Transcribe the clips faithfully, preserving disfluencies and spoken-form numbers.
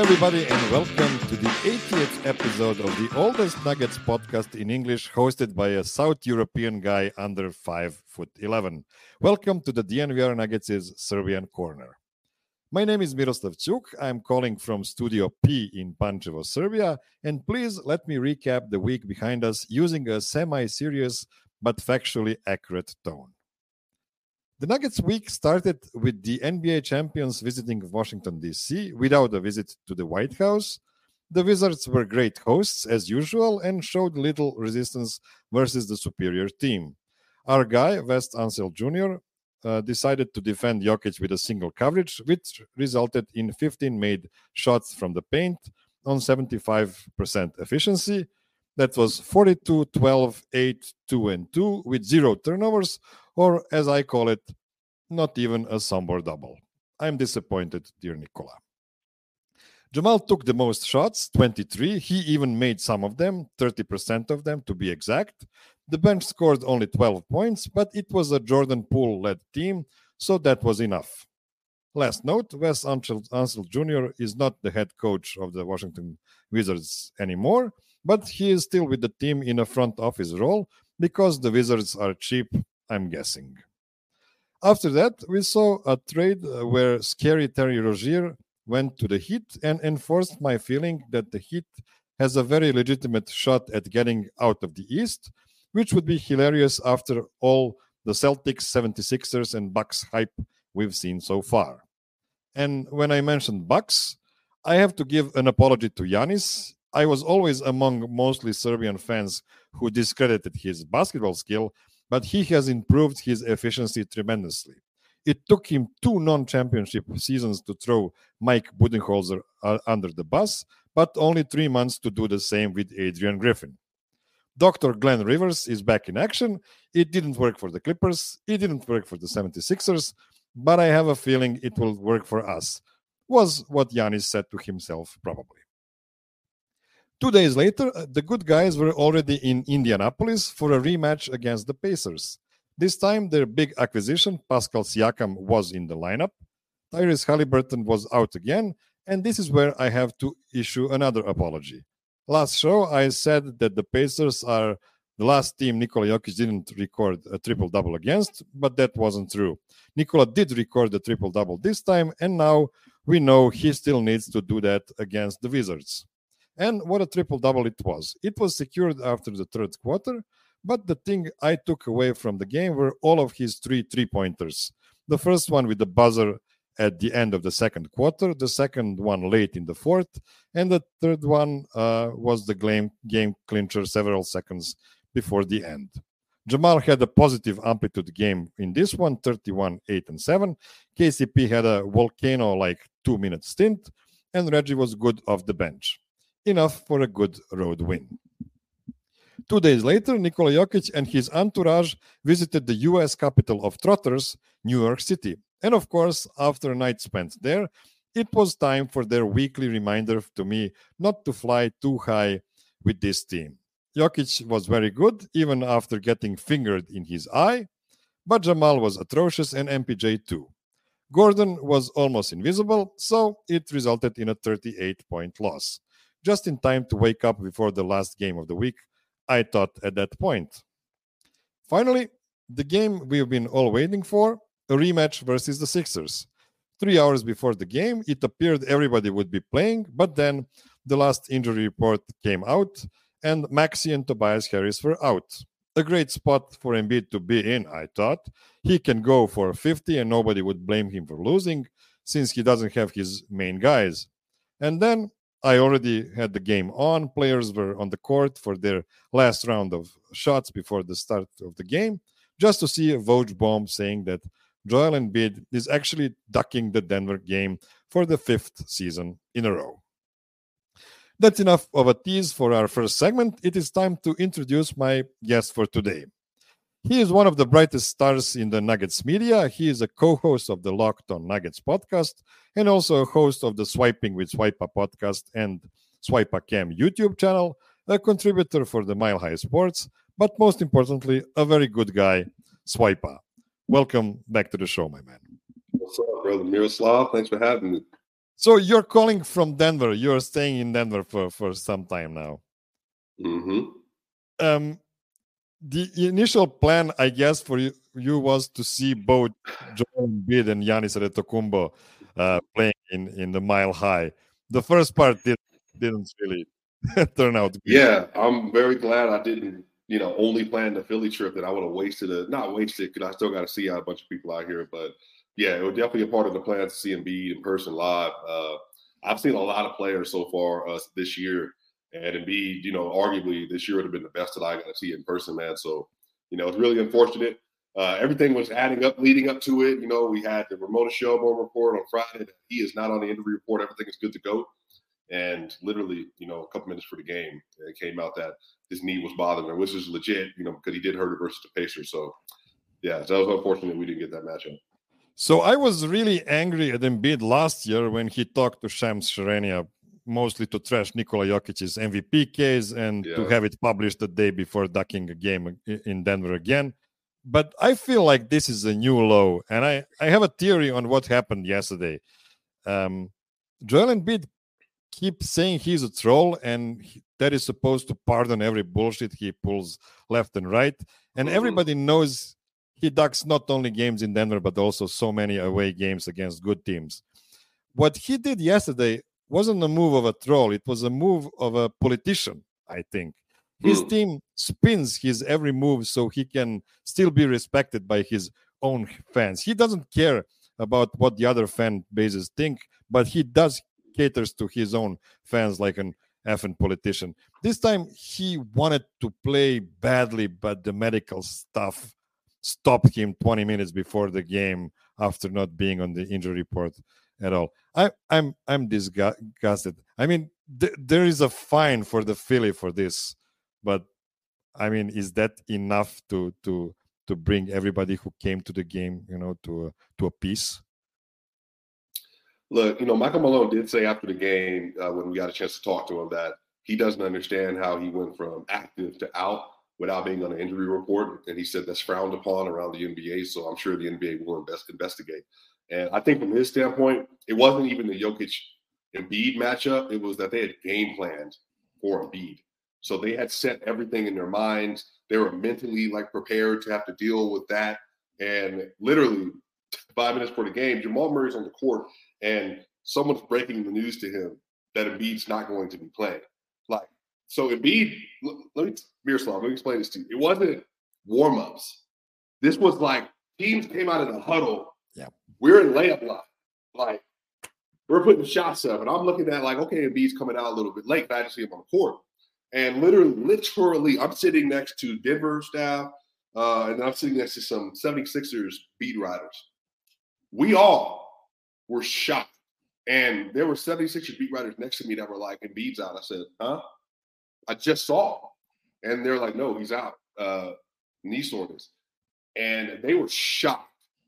everybody, and welcome to the eightieth episode of the oldest Nuggets podcast in English, hosted by a South European guy under five foot eleven. Welcome to the D N V R Nuggets' Serbian Corner. My name is Miroslav Cuk. I'm calling from Studio P in Pančevo, Serbia, and please let me recap the week behind us using a semi-serious but factually accurate tone. The Nuggets week started with the N B A champions visiting Washington, D C without a visit to the White House. The Wizards were great hosts as usual and showed little resistance versus the superior team. Our guy, Wes Unseld Junior, uh, decided to defend Jokic with a single coverage, which resulted in fifteen made shots from the paint on seventy-five percent efficiency. That was forty-two, twelve, eight, two, and two with zero turnovers, or as I call it, not even a Sombor double. I'm disappointed, dear Nikola. Jamal took the most shots, twenty-three. He even made some of them, thirty percent of them to be exact. The bench scored only twelve points, but it was a Jordan Poole-led team, so that was enough. Last note, Wes Unseld Junior is not the head coach of the Washington Wizards anymore, but he is still with the team in a front office role because the Wizards are cheap, I'm guessing. After that, we saw a trade where scary Terry Rozier went to the Heat and enforced my feeling that the Heat has a very legitimate shot at getting out of the East, which would be hilarious after all the Celtics, seventy-sixers, and Bucks hype we've seen so far. And when I mentioned Bucks, I have to give an apology to Giannis. I was always among mostly Serbian fans who discredited his basketball skill, but he has improved his efficiency tremendously. It took him two non-championship seasons to throw Mike Budenholzer uh, under the bus, but only three months to do the same with Adrian Griffin. Doctor Glenn Rivers is back in action. It didn't work for the Clippers. It didn't work for the seventy-sixers, but I have a feeling it will work for us, was what Giannis said to himself probably. Two days later, the good guys were already in Indianapolis for a rematch against the Pacers. This time, their big acquisition, Pascal Siakam, was in the lineup. Tyrese Haliburton was out again, and this is where I have to issue another apology. Last show, I said that the Pacers are the last team Nikola Jokic didn't record a triple-double against, but that wasn't true. Nikola did record a triple-double this time, and now we know he still needs to do that against the Wizards. And what a triple-double it was. It was secured after the third quarter, but the thing I took away from the game were all of his three three-pointers. The first one with the buzzer at the end of the second quarter, the second one late in the fourth, and the third one uh, was the game, game clincher several seconds before the end. Jamal had a positive amplitude game in this one, thirty-one, eight, and seven. K C P had a volcano-like two-minute stint, and Reggie was good off the bench. Enough for a good road win. Two days later, Nikola Jokic and his entourage visited the U S capital of trotters, New York City. And of course, after a night spent there, it was time for their weekly reminder to me not to fly too high with this team. Jokic was very good, even after getting fingered in his eye, but Jamal was atrocious and M P J too. Gordon was almost invisible, so it resulted in a thirty-eight point loss. Just in time to wake up before the last game of the week, I thought at that point. Finally, the game we've been all waiting for, a rematch versus the Sixers. Three hours before the game, it appeared everybody would be playing, but then the last injury report came out, and Maxey and Tobias Harris were out. A great spot for Embiid to be in, I thought. He can go for fifty and nobody would blame him for losing, since he doesn't have his main guys. And then I already had the game on. Players were on the court for their last round of shots before the start of the game, just to see a Woj bomb saying that Joel Embiid is actually ducking the Denver game for the fifth season in a row. That's enough of a tease for our first segment. It is time to introduce my guest for today. He is one of the brightest stars in the Nuggets media. He is a co-host of the Locked On Nuggets podcast and also a host of the Swiping with Swipa podcast and Swipa Cam YouTube channel, a contributor for the Mile High Sports, but most importantly, a very good guy, Swipa. Welcome back to the show, my man. What's up, brother Miroslav? Thanks for having me. So you're calling from Denver. You're staying in Denver for, for some time now. Mm-hmm. Um, the initial plan, I guess, for you, you was to see both Joel Embiid and Giannis Antetokounmpo uh, playing in, in the Mile High. The first part did, didn't really turn out good. Yeah, I'm very glad I didn't, you know, only plan the Philly trip, that I would have wasted it. Not wasted, because I still got to see a bunch of people out here. But yeah, it was definitely a part of the plan to see Embiid in person live. Uh, I've seen a lot of players so far uh, this year, and Embiid, you know, arguably this year would have been the best that I got to see in person, man. So, you know, it's really unfortunate. Uh, everything was adding up, leading up to it. You know, we had the Ramona Shelburne report on Friday that he is not on the injury report. Everything is good to go. And literally, you know, a couple minutes for the game, it came out that his knee was bothering him, which is legit, you know, because he did hurt it versus the Pacers. So, yeah, so that was unfortunate we didn't get that matchup. So I was really angry at Embiid last year when he talked to Shams Charania, mostly to trash Nikola Jokic's M V P case and yeah. to have it published the day before ducking a game in Denver again. But I feel like this is a new low, and I, I have a theory on what happened yesterday. Um, Joel Embiid keeps saying he's a troll, and he, that is supposed to pardon every bullshit he pulls left and right. And mm-hmm. everybody knows he ducks not only games in Denver, but also so many away games against good teams. What he did yesterday wasn't a move of a troll. It was a move of a politician, I think. His mm. team spins his every move so he can still be respected by his own fans. He doesn't care about what the other fan bases think, but he does caters to his own fans like an effing politician. This time he wanted to play badly, but the medical stuff stopped him twenty minutes before the game after not being on the injury report at all. I, I'm I'm disgusted. I mean, th- there is a fine for the Philly for this, but I mean, is that enough to to to bring everybody who came to the game, you know, to a, to a peace? Look, you know, Michael Malone did say after the game uh, when we got a chance to talk to him that he doesn't understand how he went from active to out without being on an injury report. And he said that's frowned upon around the N B A. So I'm sure the N B A will invest, investigate. And I think from his standpoint, it wasn't even the Jokic Embiid matchup. It was that they had game planned for Embiid. So they had set everything in their minds. They were mentally like prepared to have to deal with that. And literally five minutes before the game, Jamal Murray's on the court and someone's breaking the news to him that Embiid's not going to be playing. Like, so Embiid, let me, Miroslav, let me explain this to you. It wasn't warm-ups. This was like teams came out of the huddle. Yeah. We're in layup line. Like, we're putting shots up. And I'm looking at like, okay, Embiid's coming out a little bit late, but I just see him on the court. And literally, literally, I'm sitting next to Denver staff, uh, and I'm sitting next to some seventy-sixers beat writers. We all were shocked. And there were seventy-sixers beat writers next to me that were like, Embiid's out. I said, huh? I just saw him. And they're like, no, he's out. Uh, knee soreness. And they were shocked.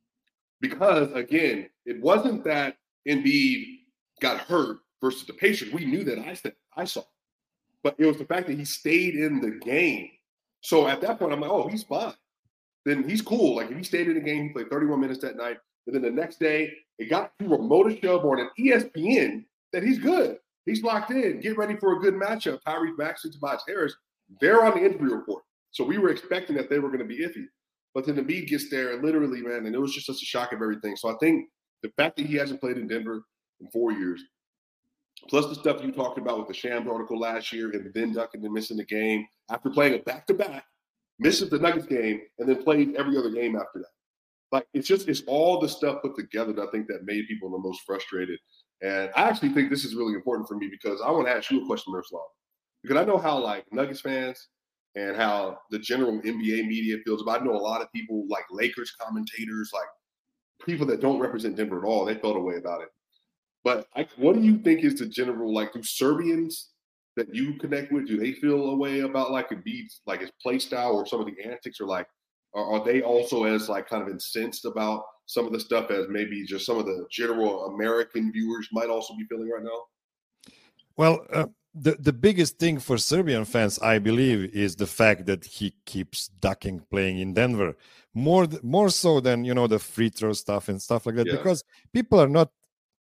Because, again, it wasn't that Embiid got hurt versus the Pacers. We knew that I, said, I saw. But it was the fact that he stayed in the game. So at that point, I'm like, oh, he's fine. Then he's cool. Like, if he stayed in the game, he played thirty-one minutes that night. And then the next day, it got to Ramona Shelburne and E S P N that he's good. He's locked in. Get ready for a good matchup. Tyrese Maxey, Tobias Harris, they're on the injury report. So we were expecting that they were going to be iffy. But then the Embiid gets there, and literally, man, and it was just such a shock of everything. So I think the fact that he hasn't played in Denver in four years, plus the stuff you talked about with the Shams article last year and then ducking and missing the game after playing a back-to-back, misses the Nuggets game, and then played every other game after that. Like, it's just, it's all the stuff put together that I think that made people the most frustrated. And I actually think this is really important for me because I want to ask you a question, Miroslav. Because I know how, like, Nuggets fans and how the general N B A media feels about it. I know a lot of people, like Lakers commentators, like people that don't represent Denver at all, they felt a way about it. But I, what do you think is the general, like, do Serbians that you connect with, do they feel a way about, like, Embiid's, like, his play style or some of the antics, or like, are, are they also as, like, kind of incensed about some of the stuff as maybe just some of the general American viewers might also be feeling right now? Well, uh, the, the biggest thing for Serbian fans, I believe, is the fact that he keeps ducking playing in Denver. More more so than, you know, the free throw stuff and stuff like that, yeah. Because people are not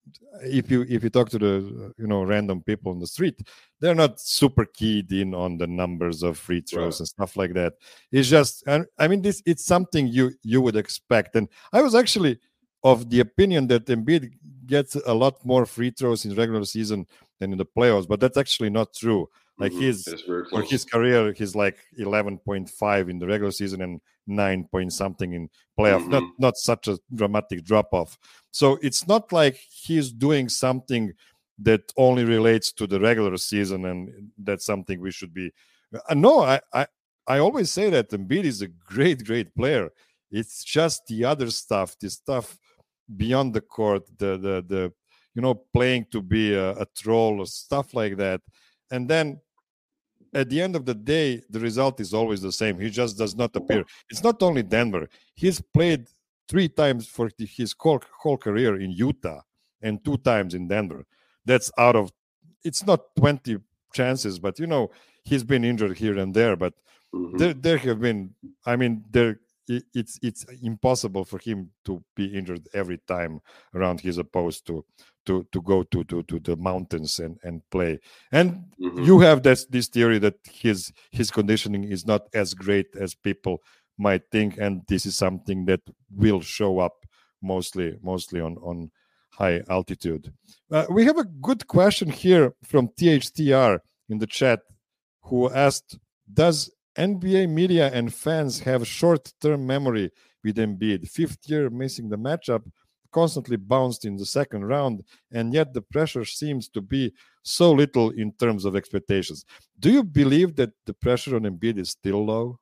if you if you talk to the you know random people on the street, they're not super keyed in on the numbers of free throws Right. and stuff like that. It's just, and I mean, this it's something you you would expect. And I was actually of the opinion that Embiid gets a lot more free throws in regular season than in the playoffs, but that's actually not true. Like Mhm. he's It's very for close. his career, he's like eleven point five in the regular season and nine point something in playoff. Not Mhm. not such a dramatic drop off. So it's not like he's doing something that only relates to the regular season, and that's something we should be. Uh, no, I, I I always say that Embiid is a great, great player. It's just the other stuff, the stuff beyond the court, the the the you know playing to be a, a troll or stuff like that, and then at the end of the day, the result is always the same. He just does not appear. It's not only Denver. He's played three times for his whole, whole career in Utah and two times in Denver. That's out of, it's not twenty chances, but you know, he's been injured here and there. But Mhm. there, there have been, I mean, there, it's it's impossible for him to be injured every time around he's opposed to to to go to to to the mountains and and play. And Mhm. you have this this theory that his his conditioning is not as great as people might think, and this is something that will show up mostly mostly on on high altitude. Uh, we have a good question here from T H T R in the chat, who asked, does N B A media and fans have short-term memory with Embiid? Fifth year missing the matchup, constantly bounced in the second round, and yet the pressure seems to be so little in terms of expectations. Do you believe that the pressure on Embiid is still low?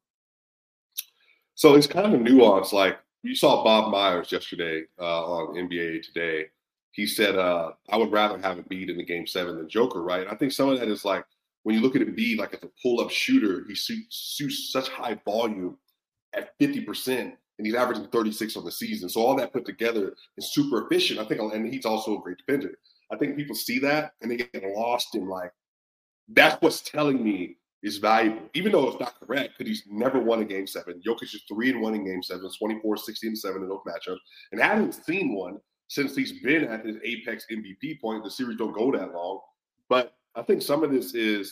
So it's kind of nuanced. Like you saw Bob Myers yesterday uh, on N B A Today. He said, uh, "I would rather have Embiid in the game seven than Joker." Right? I think some of that is like when you look at Embiid, like as a pull-up shooter, he shoots, shoots such high volume at fifty percent, and he's averaging thirty-six on the season. So all that put together is super efficient. I think, and he's also a great defender. I think people see that and they get lost in like that's what's telling me is valuable, even though it's not correct because he's never won a game seven. Jokic is three and one in game seven, twenty-four, sixteen, and seven in those matchups, and hasn't seen one since he's been at his apex M V P point. The series don't go that long. But I think some of this is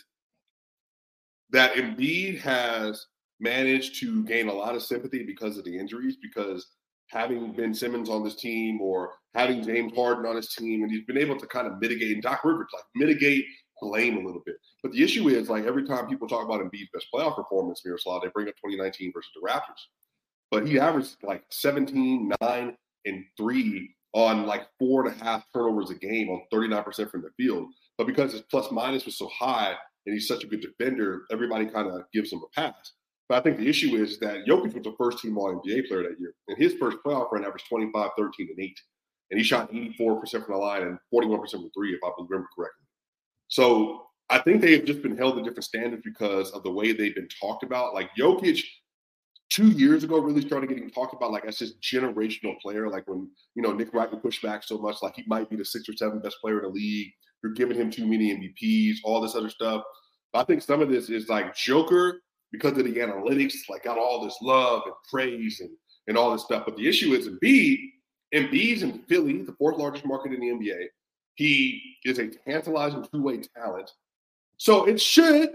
that Embiid has managed to gain a lot of sympathy because of the injuries, because having Ben Simmons on this team or having James Harden on his team, and he's been able to kind of mitigate, and Doc Rivers, like mitigate blame a little bit. But the issue is, like, every time people talk about Embiid's best playoff performance, Miroslav, they bring up twenty nineteen versus the Raptors. But he averaged like seventeen, nine, and three on like four and a half turnovers a game on thirty-nine percent from the field. But because his plus minus was so high and he's such a good defender, everybody kind of gives him a pass. But I think the issue is that Jokic was the first team All N B A player that year. And his first playoff run averaged twenty-five, thirteen, and eight. And he shot eighty-four percent from the line and forty-one percent from three, if I remember correctly. So I think they've just been held to different standards because of the way they've been talked about. Like Jokic, two years ago, really started getting talked about like as this generational player. Like when, you know, Nick Wright would push back so much, like he might be the sixth or seventh best player in the league. You're giving him too many M V Ps, all this other stuff. But I think some of this is like Joker, because of the analytics, like got all this love and praise and, and all this stuff. But the issue is Embiid. Embiid's in Philly, the fourth largest market in the N B A. He is a tantalizing two-way talent. So it should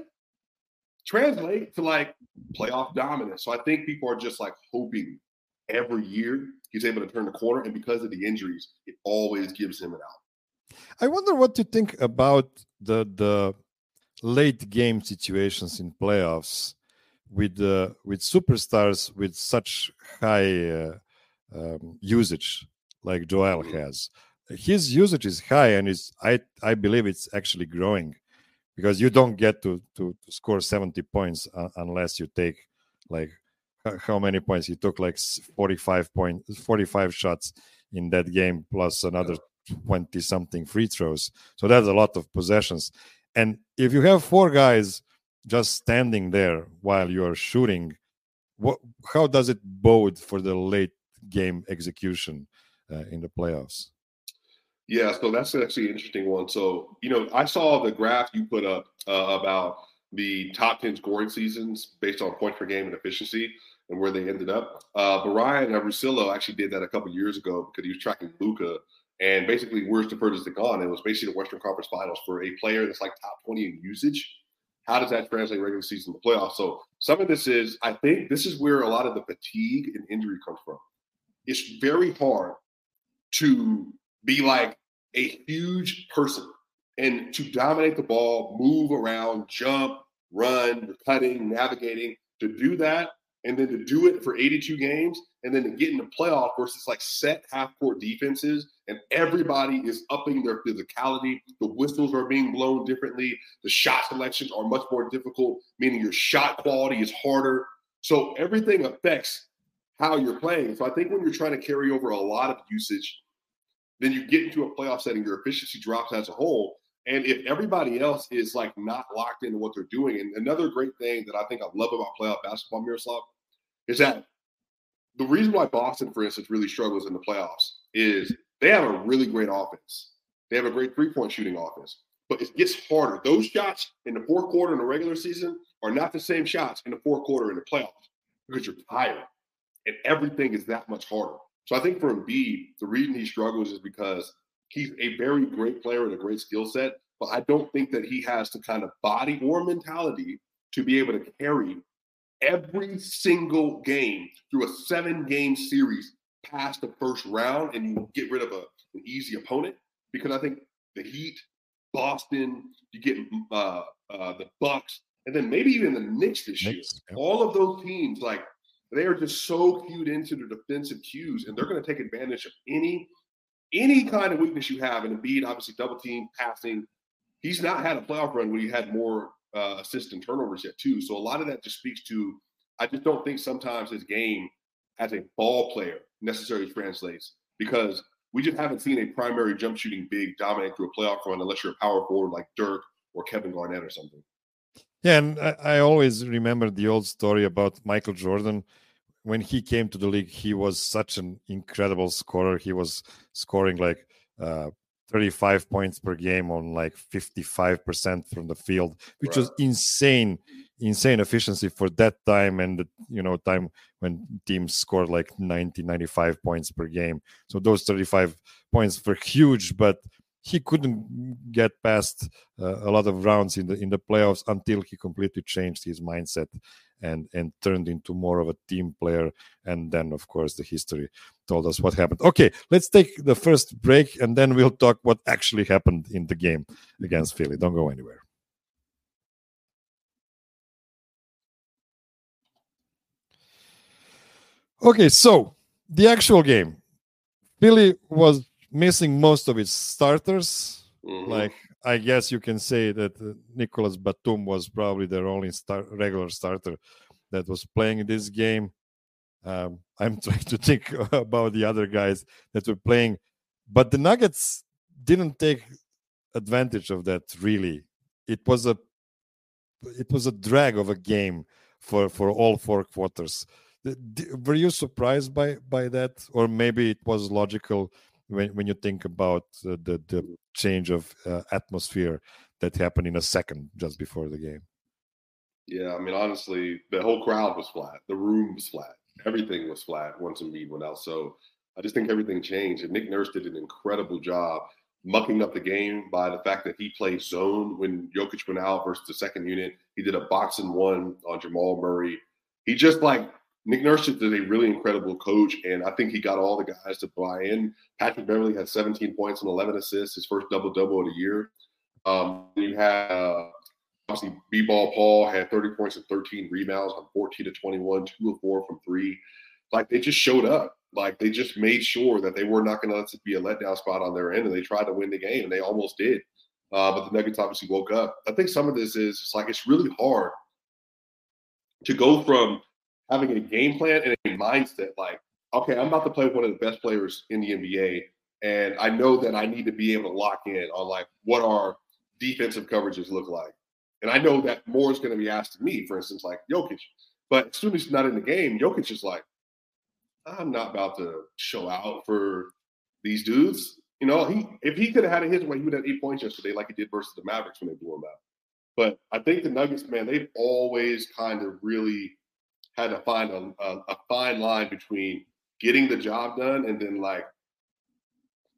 translate to like playoff dominance. So I think people are just like hoping every year he's able to turn the corner. And because of the injuries, it always gives him an out. I wonder what you think about the the late game situations in playoffs with uh, with superstars with such high uh, um, usage like Joel mm-hmm. has. His usage is high, and is I I believe it's actually growing, because you don't get to to, to score seventy points uh, unless you take like how many points he took, like forty-five points, forty-five shots in that game, plus another twenty something free throws. So that's a lot of possessions. And if you have four guys just standing there while you are shooting, what how does it bode for the late game execution uh, in the playoffs? Yeah, so that's actually an interesting one. So, you know, I saw the graph you put up uh, about the top ten scoring seasons based on points per game and efficiency and where they ended up. Uh, Brian Russillo actually did that a couple years ago because he was tracking Luka, And basically, where's the furthest it gone? It was basically the Western Conference Finals for a player that's like top twenty in usage. How does that translate regular season to playoffs? So some of this is, I think this is where a lot of the fatigue and injury comes from. It's very hard to be like a huge person and to dominate the ball, move around, jump, run, cutting, navigating, to do that, and then to do it for eighty-two games, and then to get into playoff versus like set half-court defenses, and everybody is upping their physicality. The whistles are being blown differently. The shot selections are much more difficult, meaning your shot quality is harder. So everything affects how you're playing. So I think when you're trying to carry over a lot of usage, then you get into a playoff setting, your efficiency drops as a whole. And if everybody else is like not locked into what they're doing, and another great thing that I think I love about playoff basketball, Miroslav, is that the reason why Boston, for instance, really struggles in the playoffs is they have a really great offense. They have a great three-point shooting offense, but it gets harder. Those shots in the fourth quarter in the regular season are not the same shots in the fourth quarter in the playoffs because you're tired, and everything is that much harder. So I think for Embiid, the reason he struggles is because he's a very great player with a great skill set, but I don't think that he has the kind of body or mentality to be able to carry every single game through a seven-game series past the first round and you get rid of a, an easy opponent. Because I think the Heat, Boston, you get uh, uh, the Bucks, and then maybe even the Knicks this year. Knicks, yeah. All of those teams, like, they are just so cued into the defensive cues, and they're going to take advantage of any any kind of weakness you have. And Embiid, obviously, double team, passing. He's not had a playoff run where he had more uh, assists and turnovers yet, too. So a lot of that just speaks to, I just don't think sometimes his game as a ball player necessarily translates, because we just haven't seen a primary jump shooting big dominate through a playoff run unless you're a power forward like Dirk or Kevin Garnett or something. Yeah, and I, I always remember the old story about Michael Jordan. When he came to the league, he was such an incredible scorer. He was scoring like uh, thirty-five points per game on like fifty-five percent from the field, which right. was insane, insane efficiency for that time. And, the, you know, time when teams scored like ninety, ninety-five points per game. So those thirty-five points were huge, but he couldn't get past uh, a lot of rounds in the in the playoffs until he completely changed his mindset and and turned into more of a team player. And then, of course, the history told us what happened. Okay, let's take the first break, and then we'll talk what actually happened in the game against Philly. Don't go anywhere. Okay, so the actual game. Philly was missing most of its starters. Mm-hmm. Like, I guess you can say that uh, Nicolas Batum was probably their only star- regular starter that was playing this game. Um, I'm trying to think about the other guys that were playing, but the Nuggets didn't take advantage of that. Really, it was a it was a drag of a game for for all four quarters. Were you surprised by by that, or maybe it was logical when when you think about uh, the the change of uh, atmosphere that happened in a second just before the game? Yeah, I mean, honestly, the whole crowd was flat. The room was flat. Everything was flat once Embiid went out. So I just think everything changed. And Nick Nurse did an incredible job mucking up the game by the fact that he played zone when Jokic went out versus the second unit. He did a box and one on Jamal Murray. He just like Nick Nurse is a really incredible coach, and I think he got all the guys to buy in. Patrick Beverley had seventeen points and eleven assists, his first double-double of the year. Um, you had uh, obviously B-Ball Paul had thirty points and thirteen rebounds on fourteen to twenty-one, two of four from three. Like, they just showed up. Like, they just made sure that they were not going to let it be a letdown spot on their end, and they tried to win the game, and they almost did. Uh, but the Nuggets obviously woke up. I think some of this is it's like it's really hard to go from having a game plan and a mindset like, okay, I'm about to play with one of the best players in the N B A, and I know that I need to be able to lock in on, like, what our defensive coverages look like. And I know that more is going to be asked of me, for instance, like Jokic. But as soon as he's not in the game, Jokic is like, I'm not about to show out for these dudes. You know, he if he could have had it his way, he would have eight points yesterday like he did versus the Mavericks when they blew him out. But I think the Nuggets, man, they've always kind of really had to find a, a, a fine line between getting the job done and then, like,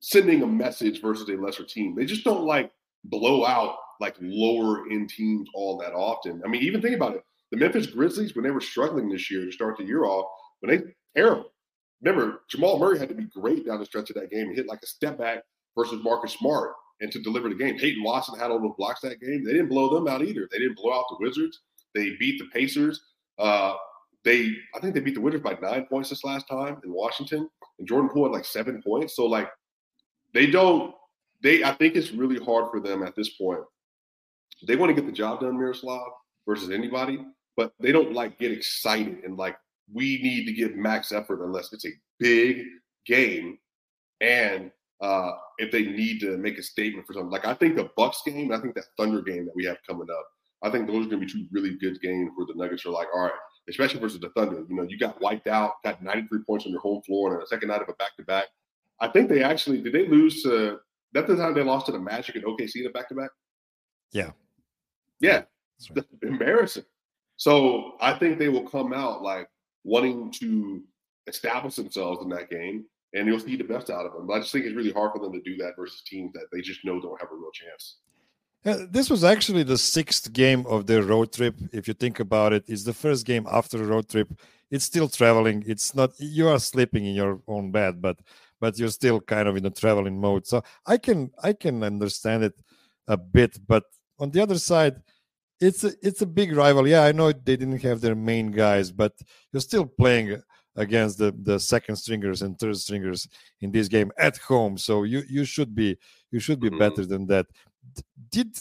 sending a message versus a lesser team. They just don't like blow out like lower end teams all that often. I mean, even think about it. The Memphis Grizzlies, when they were struggling this year to start the year off, when they terrible. Remember, Jamal Murray had to be great down the stretch of that game and hit like a step back versus Marcus Smart and to deliver the game. Peyton Watson had all those blocks that game. They didn't blow them out either. They didn't blow out the Wizards. They beat the Pacers. Uh, they, I think they beat the Wizards by nine points this last time in Washington. And Jordan Poole had like seven points. So like they don't, they, I think it's really hard for them at this point. They want to get the job done, Miroslav, versus anybody, but they don't like get excited and like, we need to give max effort unless it's a big game. And uh, if they need to make a statement for something, like I think the Bucks game, I think that Thunder game that we have coming up, I think those are going to be two really good games where the Nuggets are like, all right, especially versus the Thunder. You know, you got wiped out, got ninety-three points on your home floor and a second night of a back-to-back. I think they actually, did they lose to, that's the time they lost to the Magic and O K C in a back-to-back? Yeah. Yeah. That's right. That's embarrassing. So I think they will come out like wanting to establish themselves in that game, and you'll see the best out of them. But I just think it's really hard for them to do that versus teams that they just know don't have a real chance. Yeah, this was actually the sixth game of their road trip. If you think about it, it's the first game after the road trip. It's still traveling. It's not, you are sleeping in your own bed, but but you're still kind of in a traveling mode. So I can I can understand it a bit, but on the other side, it's a, it's a big rival. Yeah, I know they didn't have their main guys, but you're still playing against the, the second stringers and third stringers in this game at home. So you you should be you should be mm-hmm. better than that. Did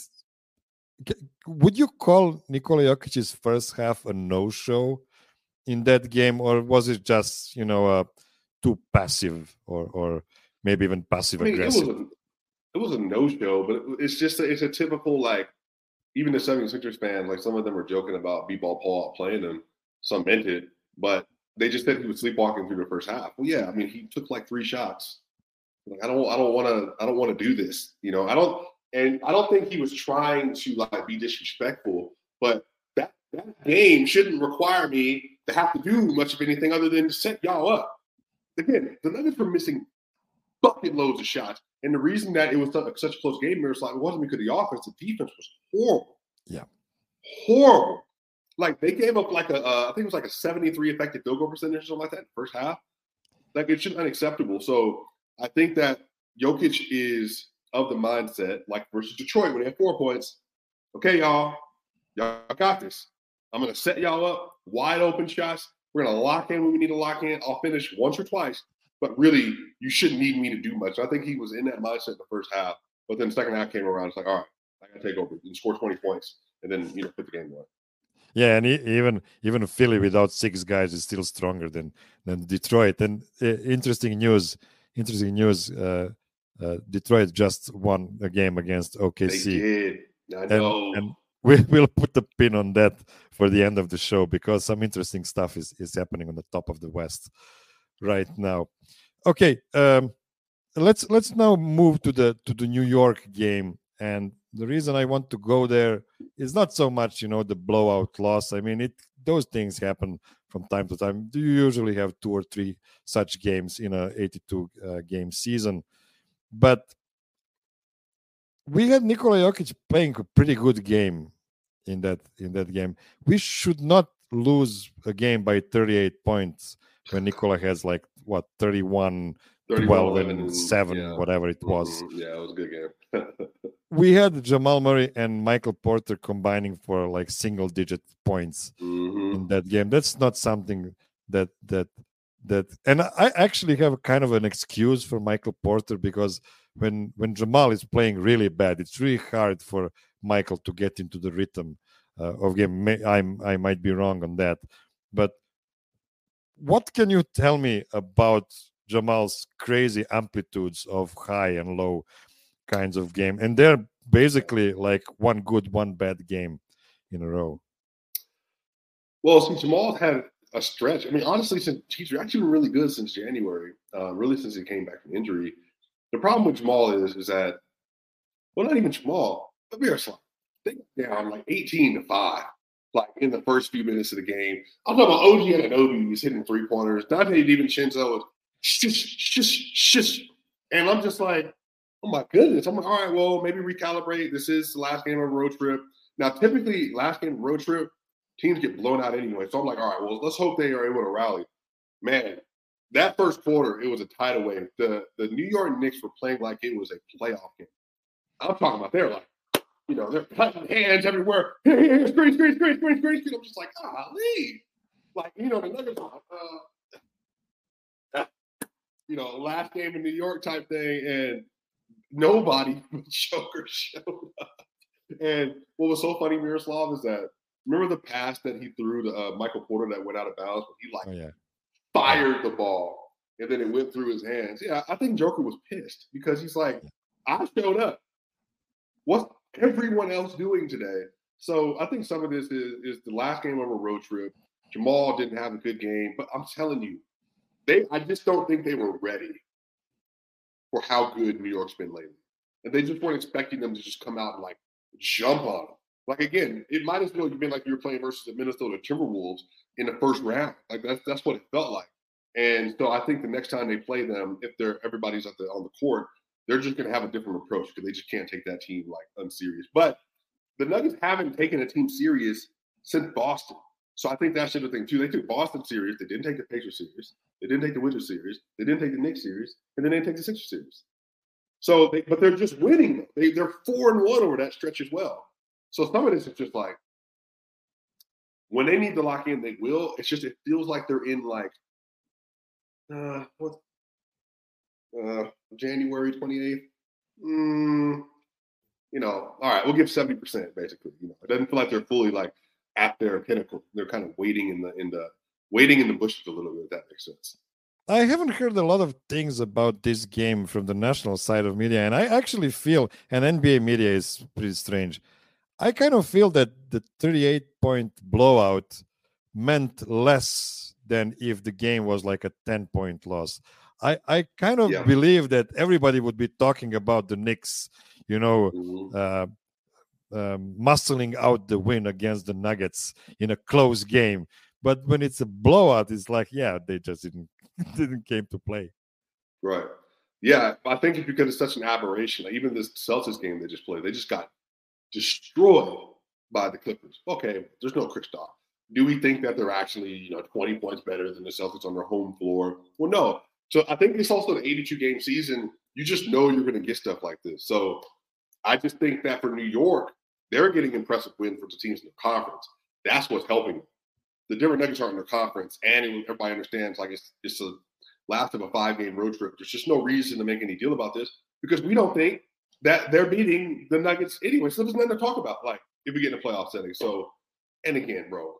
would you call Nikola Jokic's first half a no-show in that game, or was it just, you know, uh, too passive, or or maybe even passive I mean, aggressive? It was a, it was a no-show, but it's just a, it's a typical, like, even the seventy-sixers fans, like some of them were joking about B-Ball Paul playing him. Some meant it, but they just said he was sleepwalking through the first half. Well, yeah, I mean, he took like three shots. Like, I don't, I don't want to, I don't want to do this. You know, I don't, and I don't think he was trying to like be disrespectful. But that that game shouldn't require me to have to do much of anything other than to set y'all up. Again, the Nuggets were missing bucket loads of shots. And the reason that it was such a close game, Miroslav, it wasn't because of the offense. The defense was horrible. Yeah. Horrible. Like, they gave up like a, uh, I think it was like a seventy-three effective field goal percentage or something like that in the first half. Like, it's just unacceptable. So I think that Jokic is of the mindset, like versus Detroit when they had four points. Okay, y'all, y'all got this. I'm going to set y'all up, wide open shots. We're going to lock in when we need to lock in. I'll finish once or twice. But really, you shouldn't need me to do much. I think he was in that mindset in the first half. But then the second half came around. It's like, all right, I got to take over and score twenty points and then, you know, put the game away. Yeah, and even even Philly without six guys is still stronger than than Detroit. And uh, interesting news, interesting news. Uh, uh, Detroit just won a game against O K C. They did. I know. And, and we will put the pin on that for the end of the show because some interesting stuff is is happening on the top of the West right now. Okay, um, let's let's now move to the to the New York game. And the reason I want to go there is not so much, you know, the blowout loss. I mean, it those things happen from time to time. You usually have two or three such games in a eighty-two uh, game season. But we had Nikola Jokic playing a pretty good game in that in that game. We should not lose a game by thirty-eight points when Nikola has like what thirty-one, twelve, and seven, yeah. whatever it was. Mm-hmm. Yeah, it was a good game. We had Jamal Murray and Michael Porter combining for like single-digit points mm-hmm. in that game. That's not something that that that. And I actually have kind of an excuse for Michael Porter because when when Jamal is playing really bad, it's really hard for Michael to get into the rhythm uh, of game. I I might be wrong on that, but what can you tell me about Jamal's crazy amplitudes of high and low kinds of game? And they're basically like one good, one bad game in a row. Well, since Jamal had a stretch, I mean, honestly, since he's actually been really good since January, uh, really since he came back from injury. The problem with Jamal is, is that, well, not even Jamal, but Miroslav, they got down like eighteen to five, like in the first few minutes of the game. I'm talking about O G Anunoby was hitting three pointers. Dante DiVincenzo was shush, shush, shush. And I'm just like, oh my goodness. I'm like, all right, well, maybe recalibrate. This is the last game of a road trip. Now, typically, last game of a road trip, teams get blown out anyway. So I'm like, all right, well, let's hope they are able to rally. Man, that first quarter, it was a tidal wave. The the New York Knicks were playing like it was a playoff game. I'm talking about they're like, you know, they're cutting hands everywhere. Here, here, here, screen, screen, screen, screen, screen, screen. I'm just like, golly. Like, you know, the Nuggets are, uh, you know, last game in New York type thing, and nobody but Joker showed up. And what was so funny, Miroslav, is that remember the pass that he threw to uh, Michael Porter that went out of bounds? He like Oh, yeah. fired the ball, and then it went through his hands. Yeah, I think Joker was pissed because he's like, I showed up. What's everyone else doing today? So I think some of this is, is the last game of a road trip. Jamal didn't have a good game, but I'm telling you, they I just don't think they were ready for how good New York's been lately. And they just weren't expecting them to just come out and like jump on them. Like again, it might as well have been like you were playing versus the Minnesota Timberwolves in the first round. Like that's that's what it felt like. And so I think the next time they play them, if they're everybody's at the on the court, they're just going to have a different approach because they just can't take that team like unserious. But the Nuggets haven't taken a team serious since Boston. So I think that's the other thing too. They took Boston serious. They didn't take the Pacers serious. They didn't take the Wizards serious. They didn't take the Knicks serious, and they didn't take the Sixers serious. So, they, but they're just winning. They, they're four and one over that stretch as well. So some of this is just like when they need to lock in, they will. It's just it feels like they're in like uh, what uh, January twenty-eighth. Mm, you know, all right, we'll give seventy percent basically. You know, it doesn't feel like they're fully like at their pinnacle. They're kind of waiting in the in the waiting in the bushes a little bit. If that makes sense. I haven't heard a lot of things about this game from the national side of media, and I actually feel, and N B A media is pretty strange. I kind of feel that the thirty-eight point blowout meant less than if the game was like a ten point loss. I, I kind of Yeah. believe that everybody would be talking about the Knicks, you know, Mm-hmm. uh, um, muscling out the win against the Nuggets in a close game. But when it's a blowout, it's like, yeah, they just didn't didn't came to play. Right. Yeah, I think it's because it's such an aberration. Like even this Celtics game they just played, they just got destroyed by the Clippers. Okay, there's no Kristaps. Do we think that they're actually, you know, twenty points better than the Celtics on their home floor? Well, no. So I think it's also an eighty-two game season. You just know you're going to get stuff like this. So I just think that for New York, they're getting impressive wins for the teams in the conference. That's what's helping them. The Denver Nuggets aren't in their conference, and everybody understands like it's it's a last of a five game road trip. There's just no reason to make any deal about this because we don't think that they're beating the Nuggets anyway. So there's nothing to talk about, like if we get in a playoff setting. So, and again, bro,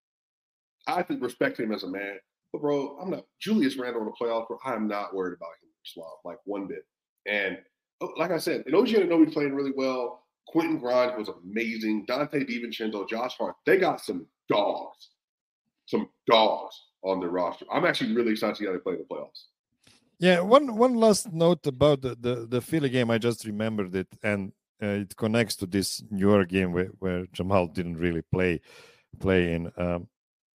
I think respect him as a man, but bro, I'm not Julius Randle in the playoff. Bro, I'm not worried about him, Slav, like one bit. And like I said, and O G Anunoby playing really well. Quentin Grimes was amazing. Dante DiVincenzo, Josh Hart, they got some dogs. Some dogs on their roster. I'm actually really excited to see how they play in the playoffs. Yeah, one one last note about the, the, the Philly game. I just remembered it, and uh, it connects to this New York game where, where Jamal didn't really play play in. Um,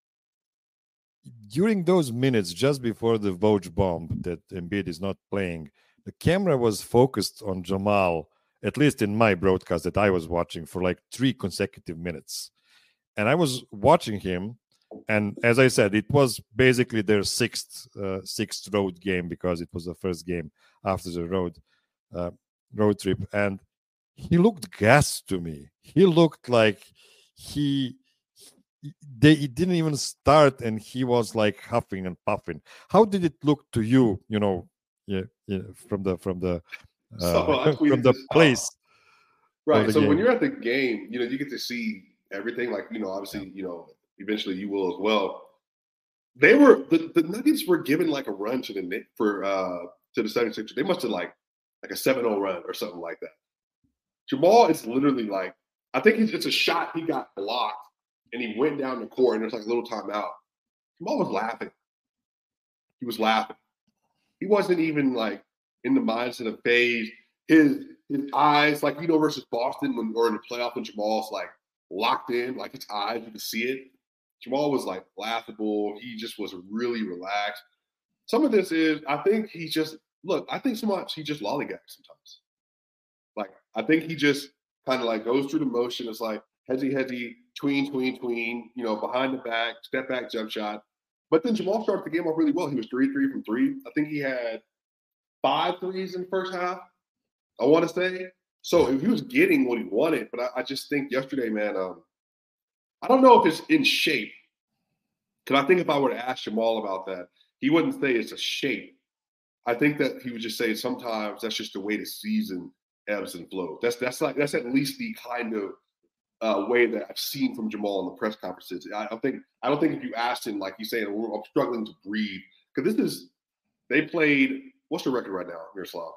during those minutes, just before the Vouch bomb that Embiid is not playing, the camera was focused on Jamal, at least in my broadcast that I was watching, for like three consecutive minutes. And I was watching him. And as I said, it was basically their sixth uh, sixth road game because it was the first game after the road uh, road trip. And he looked gassed to me. He looked like he they it didn't even start, and he was like huffing and puffing. How did it look to you? You know, yeah, yeah from the from the uh, so from the place. Right. So game. when you're at the game, you know, you get to see everything. Like you know, obviously, you know. Eventually, you will as well. They were the, the Nuggets were given like a run to the for uh, to the seventy-sixers. They must have like like a seven oh run or something like that. Jamal is literally like I think it's, it's a shot he got blocked and he went down the court and there's like a little timeout. Jamal was laughing. He was laughing. He wasn't even like in the mindset of phase. His his eyes like you know versus Boston when or in the playoff when Jamal's like locked in like his eyes you can see it. Jamal was like laughable. He just was really relaxed. Some of this is, I think he just, look, I think sometimes he just lollygags sometimes. Like, I think he just kind of like goes through the motion. It's like headsy, headsy, tween, tween, tween, you know, behind the back, step back, jump shot. But then Jamal started the game off really well. He was three three from three. I think he had five threes in the first half, I want to say. So he was getting what he wanted. But I, I just think yesterday, man, um, I don't know if it's in shape. Because I think if I were to ask Jamal about that, he wouldn't say it's a shape. I think that he would just say sometimes that's just the way the season ebbs and flows. That's that's like that's at least the kind of uh, way that I've seen from Jamal in the press conferences. I don't think I don't think if you asked him, like he's saying, I'm struggling to breathe, because this is they played. What's the record right now, Miroslav?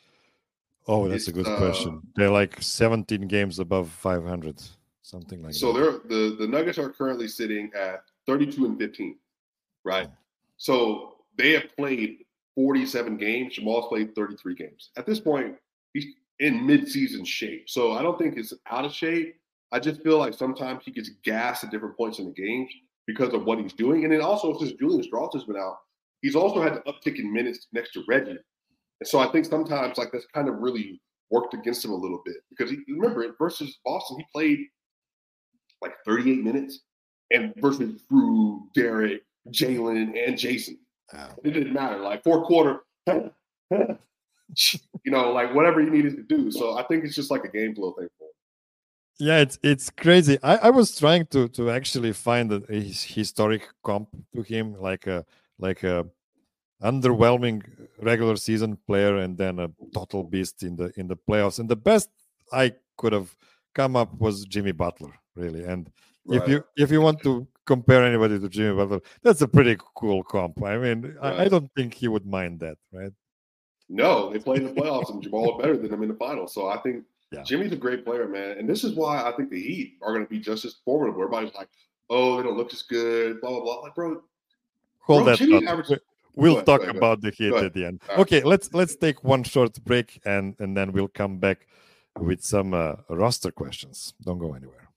Oh, that's It's, a good uh, question. They're like seventeen games above five hundred, something like so that. they're the the Nuggets are currently sitting at thirty-two and fifteen, right? So they have played forty-seven games. Jamal's played thirty-three games. At this point, he's in mid-season shape. So I don't think it's out of shape. I just feel like sometimes he gets gassed at different points in the games because of what he's doing. And then also, since Julian Strauss has been out, he's also had to uptick in minutes next to Reggie. And so I think sometimes like that's kind of really worked against him a little bit, because he, remember versus Boston, he played like thirty-eight minutes, and versus Drew, Derek, Jalen, and Jason. Wow. It didn't matter. Like fourth quarter, you know, like whatever he needed to do. So I think it's just like a game flow thing for him. Yeah, it's it's crazy. I, I was trying to to actually find a, a historic comp to him, like a like a underwhelming regular season player and then a total beast in the in the playoffs. And the best I could have come up was Jimmy Butler, really. And Right. if you if you want to compare anybody to Jimmy Butler, that's a pretty cool comp. I mean, Right. I, I don't think he would mind that, right? No, they played in the playoffs and Jamal was better than him in the finals. So I think Yeah. Jimmy's a great player, man. And this is why I think the Heat are going to be just as formidable. Everybody's like, oh, they don't look as good, blah, blah, blah. Like, bro, Hold bro, that Jimmy thought. averaged. We'll ahead, talk go ahead, go about the Heat at the end. Right. Okay, let's let's take one short break and and then we'll come back with some uh, roster questions. Don't go anywhere.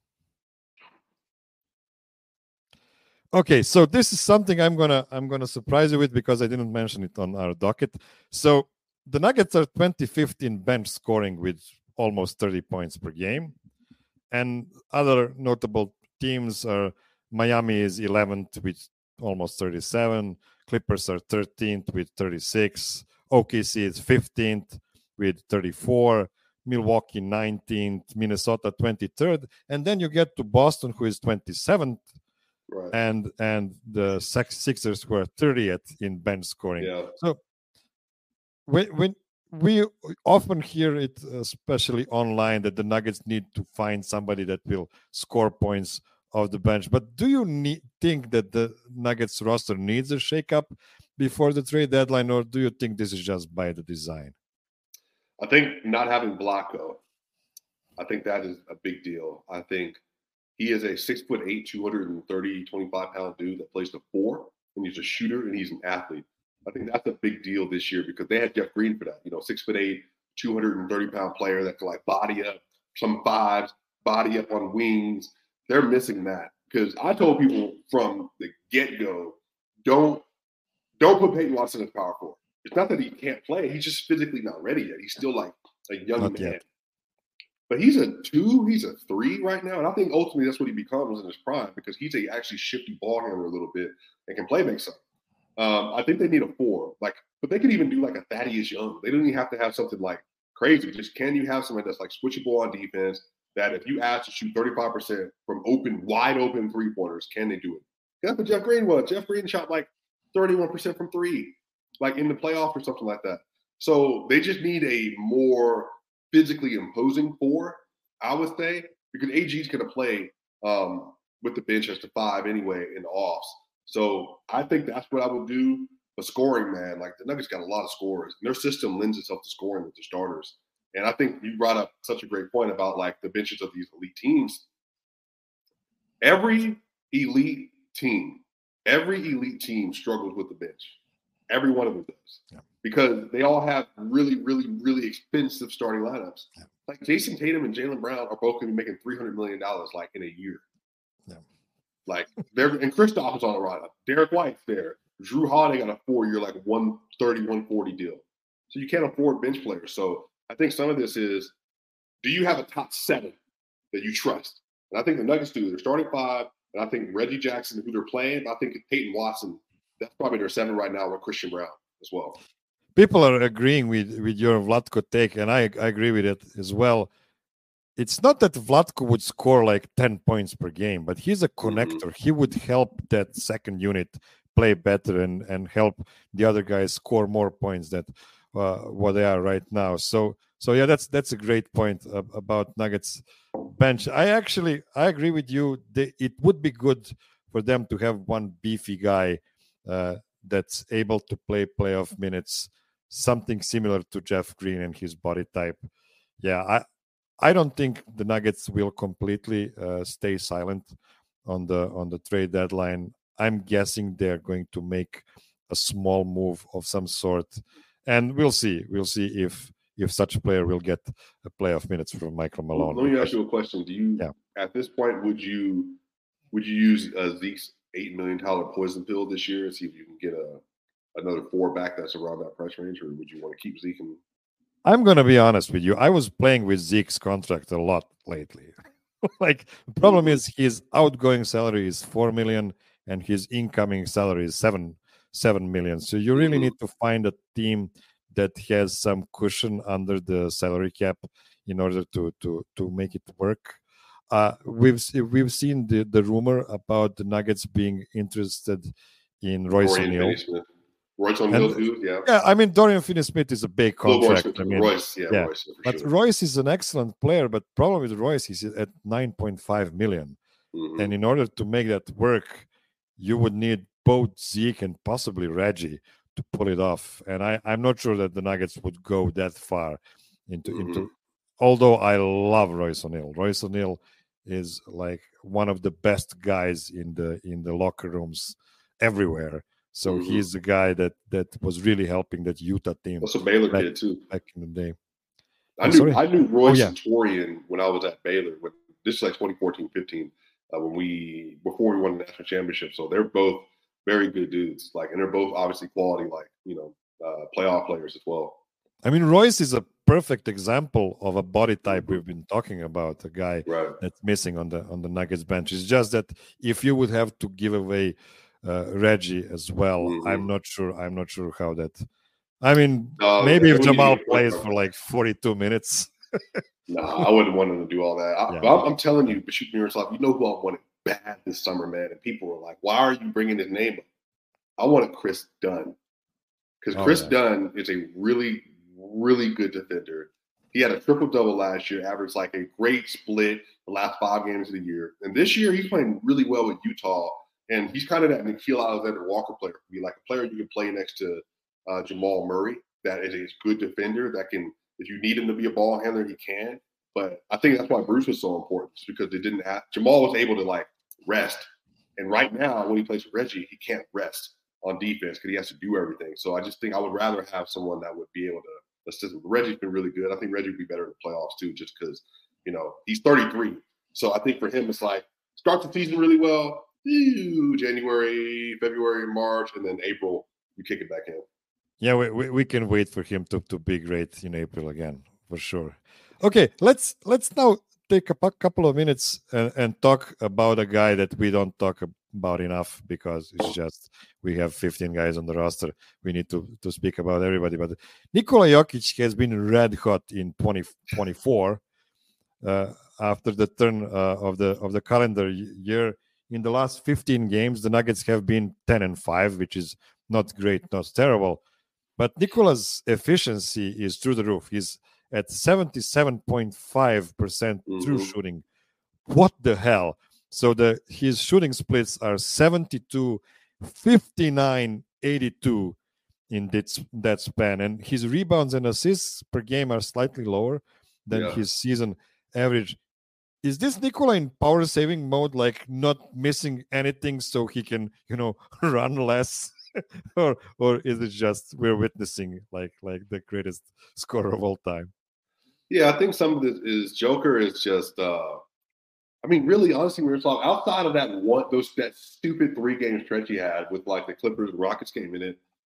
Okay, so this is something I'm gonna I'm gonna surprise you with, because I didn't mention it on our docket. So the Nuggets are twenty-fifth in bench scoring with almost thirty points per game, and other notable teams are Miami is eleventh with almost thirty-seven. Clippers are thirteenth with thirty-six. O K C is fifteenth with thirty-four. Milwaukee nineteenth. Minnesota twenty-third. And then you get to Boston, who is twenty-seventh. Right. And and the Sixers were thirtieth in bench scoring. Yeah. So when, when we often hear it, especially online, that the Nuggets need to find somebody that will score points of the bench. But do you need, think that the Nuggets roster needs a shakeup before the trade deadline, or do you think this is just by the design? I think not having Blanco, I think that is a big deal. I think he is a six foot eight, two hundred thirty, twenty-five pound dude that plays the four, and he's a shooter and he's an athlete. I think that's a big deal this year, because they had Jeff Green for that. You know, six foot eight, two hundred thirty pound player that can like body up some fives, body up on wings. They're missing that, because I told people from the get go, don't don't put Peyton Watson as power forward. It's not that he can't play; he's just physically not ready yet. He's still like a young Not man. yet. But he's a two, he's a three right now. And I think ultimately that's what he becomes in his prime, because he's a actually shifty ball handler a little bit and can play make something. Um, I think they need a four. Like, but they could even do like a Thaddeus Young. They don't even have to have something like crazy. Just can you have somebody that's like switchable on defense, that if you ask to shoot thirty-five percent from open, wide open three-pointers, can they do it? That's what Jeff Green was. Jeff Green shot like thirty-one percent from three, like in the playoff or something like that. So they just need a more physically imposing four, I would say, because A G's going to play um, with the bench as the five anyway in the offs. So I think that's what I would do. But scoring, man, like the Nuggets got a lot of scorers, and their system lends itself to scoring with the starters. And I think you brought up such a great point about like the benches of these elite teams. Every elite team, every elite team struggles with the bench. Every one of them does. Yeah. Because they all have really, really, really expensive starting lineups. Yeah. Like Jason Tatum and Jaylen Brown are both going to be making three hundred million dollars like in a year. Yeah. Like they're and Kristaps is on the lineup. Derek White's there. Drew Holiday got a four-year, like one thirty, one forty deal. So you can't afford bench players. So I think some of this is, do you have a top seven that you trust? And I think the Nuggets do. They're starting five, and I think Reggie Jackson, who they're playing, I think Peyton Watson, that's probably their seven right now with Christian Brown as well. People are agreeing with, with your Vlatko take, and I, I agree with it as well. It's not that Vlatko would score like ten points per game, but he's a connector. Mm-hmm. He would help that second unit play better and, and help the other guys score more points than uh, what they are right now. So, so yeah, that's that's a great point uh, about Nuggets bench. I actually, I agree with you. They, it would be good for them to have one beefy guy uh, that's able to play playoff minutes, something similar to Jeff Green and his body type. Yeah, I I don't think the Nuggets will completely uh, stay silent on the on the trade deadline. I'm guessing they're going to make a small move of some sort, and we'll see. We'll see if if such a player will get a playoff minutes from Michael Malone. Let me ask you a question. Do you, yeah. at this point, would you would you use uh, Zeke's eight million dollar poison pill this year and see if you can get a another four back that's around that price range, or would you want to keep Zeke? And... I'm going to be honest with you. I was playing with Zeke's contract a lot lately. Like, the problem is his outgoing salary is four million and his incoming salary is seven seven million. So you really mm-hmm. need to find a team that has some cushion under the salary cap in order to to to make it work. Uh, we've we've seen the, the rumor about the Nuggets being interested in Royce O'Neal. Royce O'Neal, too, yeah. Yeah, I mean, Dorian Finney-Smith is a big contract. Royce, I mean, Royce, yeah, yeah. Royce, but sure. Royce is an excellent player, but problem with Royce is at nine point five million. Mm-hmm. And in order to make that work, you would need both Zeke and possibly Reggie to pull it off. And I, I'm not sure that the Nuggets would go that far into mm-hmm. into. Although I love Royce O'Neal. Royce O'Neal is like one of the best guys in the in the locker rooms everywhere. So mm-hmm. he's the guy that that was really helping that Utah team. That's a Baylor back, kid too. Back in the day. I knew sorry? I knew Royce oh, yeah. and Torian when I was at Baylor. When, this is like twenty fourteen fifteen uh, when we before we won the national championship. So they're both very good dudes. Like, and they're both obviously quality, like you know, uh, playoff players as well. I mean, Royce is a perfect example of a body type we've been talking about. A guy right. that's missing on the on the Nuggets bench. It's just that if you would have to give away Uh, Reggie as well. Mm-hmm. I'm not sure. I'm not sure how that. I mean, uh, maybe if Jamal plays for like forty-two minutes. No, nah, I wouldn't want him to do all that. I, yeah. I'm, I'm telling you, but shoot me yourself. You know who I wanted bad this summer, man. And people were like, "Why are you bringing his name up?" I wanted Chris Dunn because oh, Chris yeah. Dunn is a really, really good defender. He had a triple double last year, averaged like a great split the last five games of the year, and this year he's playing really well with Utah. And he's kind of that Nickeil Alexander-Walker player. Be like a player you can play next to uh, Jamal Murray that is a good defender that can, if you need him to be a ball handler, he can. But I think that's why Bruce was so important, because they didn't have – Jamal was able to, like, rest. And right now, when he plays with Reggie, he can't rest on defense because he has to do everything. So I just think I would rather have someone that would be able to assist him. Reggie's been really good. I think Reggie would be better in the playoffs, too, just because, you know, he's thirty-three. So I think for him, it's like start the season really well – January, February, March, and then April, you kick it back in. Yeah, we, we, we can wait for him to, to be great in April again, for sure. Okay, let's let's now take a couple of minutes and, and talk about a guy that we don't talk about enough because it's just we have fifteen guys on the roster. We need to, to speak about everybody. But Nikola Jokic has been red hot in twenty twenty-four uh, after the turn uh, of the of the calendar year. In the last fifteen games, the Nuggets have been ten and five, which is not great, not terrible. But Nikola's efficiency is through the roof. He's at seventy-seven point five percent mm-hmm. true shooting. What the hell? So the his shooting splits are seventy-two, fifty-nine, eighty-two in that, that span. And his rebounds and assists per game are slightly lower than yeah. his season average. Is this Nikola in power saving mode, like not missing anything so he can, you know, run less? or or is it just we're witnessing like like the greatest scorer of all time? Yeah, I think some of this is Joker is just uh I mean, really, honestly, we were talking outside of that one those that stupid three game stretch he had with like the Clippers and Rockets game in it.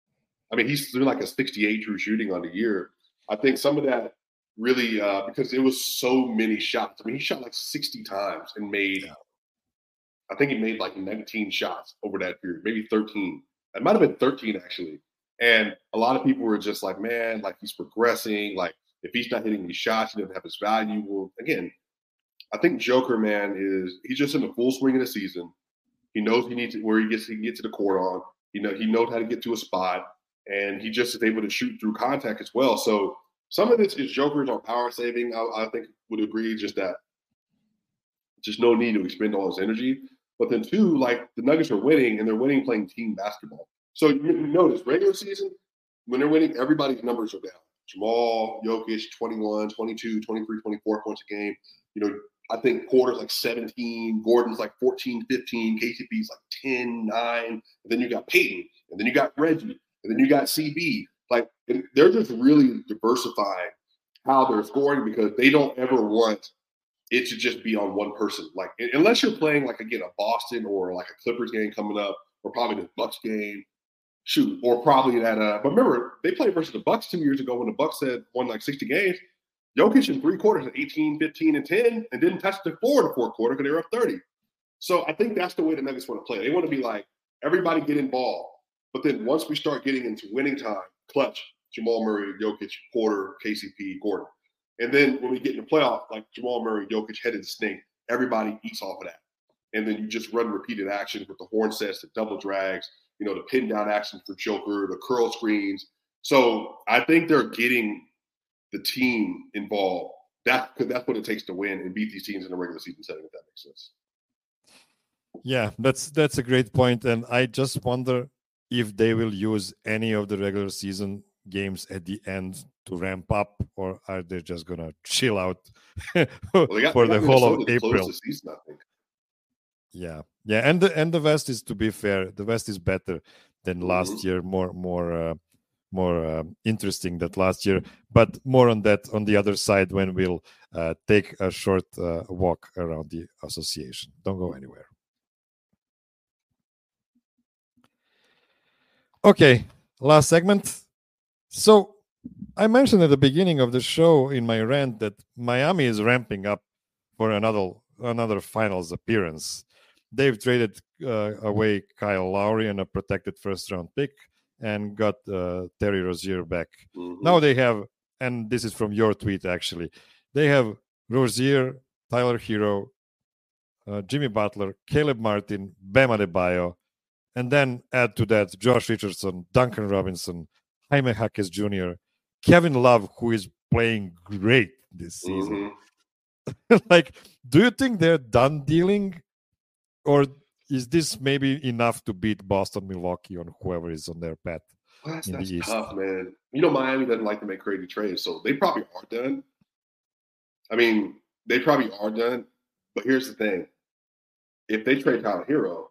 I mean, he's doing like a sixty-eight true shooting on the year. I think some of that really uh, because it was so many shots. I mean, he shot like sixty times and made. Yeah. I think he made like nineteen shots over that period, maybe thirteen. It might have been thirteen actually. And a lot of people were just like, man, like he's progressing. Like if he's not hitting these shots, he doesn't have his value. Well, again, I think Joker, man, is he's just in the full swing of the season. He knows he needs to, where he gets he can get to the court on. You know, he knows how to get to a spot, and he just is able to shoot through contact as well. So some of this is Joker's on power saving. I, I think would agree just that just no need to expend all his energy. But then two, like the Nuggets are winning, and they're winning playing team basketball. So you notice regular season, when they're winning, everybody's numbers are down. Jamal, Jokic, twenty-one, twenty-two, twenty-three, twenty-four points a game. You know, I think Porter's like seventeen, Gordon's like fourteen, fifteen, K C P's like ten, nine. And then you got Peyton, and then you got Reggie, and then you got C B. Like, they're just really diversifying how they're scoring because they don't ever want it to just be on one person. Like, unless you're playing, like, again, a Boston or like a Clippers game coming up, or probably the Bucks game. Shoot, or probably that. Uh, but remember, they played versus the Bucks two years ago when the Bucks had won like sixty games. Jokic in three quarters at eighteen, fifteen, and ten, and didn't touch the floor in the fourth quarter because they were up thirty. So I think that's the way the Nuggets want to play. They want to be like, everybody get involved. But then once we start getting into winning time, clutch, Jamal Murray, Jokic, Porter, K C P, Gordon. And then when we get in the playoff, like Jamal Murray, Jokic headed to stink, everybody eats off of that. And then you just run repeated actions with the horn sets, the double drags, you know, the pin down action for Joker, the curl screens. So I think they're getting the team involved. That, because that's what it takes to win and beat these teams in a regular season setting, if that makes sense. Yeah, that's that's a great point. And I just wonder if they will use any of the regular season games at the end to ramp up, or are they just going to chill out well, got, for the whole of April? The season, I think. Yeah, yeah, and the and the West is, to be fair, the West is better than last mm-hmm. year, more more uh, more uh, interesting than last year. But more on that on the other side when we'll uh, take a short uh, walk around the association. Don't go anywhere. Okay, last segment. So I mentioned at the beginning of the show in my rant that Miami is ramping up for another another finals appearance. They've traded uh, away Kyle Lowry and a protected first-round pick and got uh, Terry Rozier back. Mm-hmm. Now they have, and this is from your tweet actually, they have Rozier, Tyler Hero, uh, Jimmy Butler, Caleb Martin, Bam Adebayo, and then add to that Josh Richardson, Duncan Robinson, Jaime Jaquez Junior, Kevin Love, who is playing great this season. Mm-hmm. Like, do you think they're done dealing? Or is this maybe enough to beat Boston, Milwaukee, or whoever is on their path? Well, that's, in that's the East? Tough, man. You know, Miami doesn't like to make crazy trades, so they probably are done. I mean, they probably are done. But here's the thing. If they trade Tyler Hero,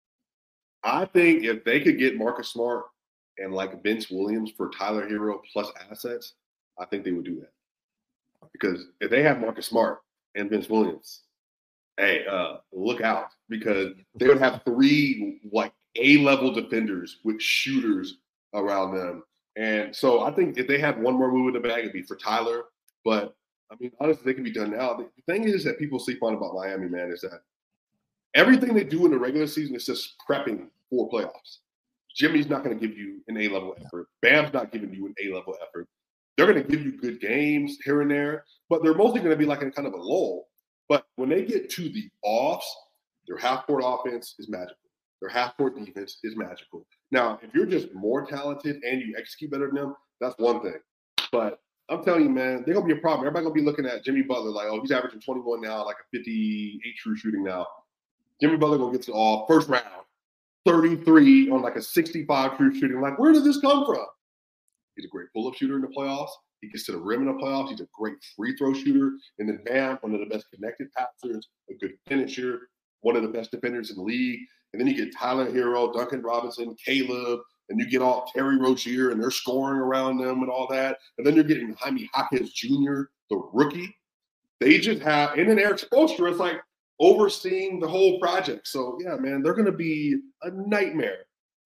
I think if they could get Marcus Smart and like Vince Williams for Tyler Hero plus assets, I think they would do that. Because if they have Marcus Smart and Vince Williams, hey, uh, look out, because they would have three like A-level defenders with shooters around them. And so I think if they had one more move in the bag, it'd be for Tyler. But I mean, honestly, they can be done now. The thing is that people sleep on about Miami, man, is that everything they do in the regular season is just prepping for playoffs. Jimmy's not going to give you an A-level effort. Bam's not giving you an A-level effort. They're going to give you good games here and there, but they're mostly going to be like in kind of a lull. But when they get to the offs, their half-court offense is magical. Their half-court defense is magical. Now, if you're just more talented and you execute better than them, that's one thing. But I'm telling you, man, they're going to be a problem. Everybody's going to be looking at Jimmy Butler like, oh, he's averaging twenty-one now, like a fifty-eight true shooting now. Jimmy Butler going to get to all first round, thirty-three on like a sixty-five true shooting. Like, where did this come from? He's a great pull-up shooter in the playoffs. He gets to the rim in the playoffs. He's a great free throw shooter. And then Bam, one of the best connected passers, a good finisher, one of the best defenders in the league. And then you get Tyler Hero, Duncan Robinson, Caleb, and you get all Terry Rozier, and they're scoring around them and all that. And then you're getting Jaime Jaquez Junior, the rookie. They just have, and then Eric Spoelstra is like overseeing the whole project. So, yeah, man, they're going to be a nightmare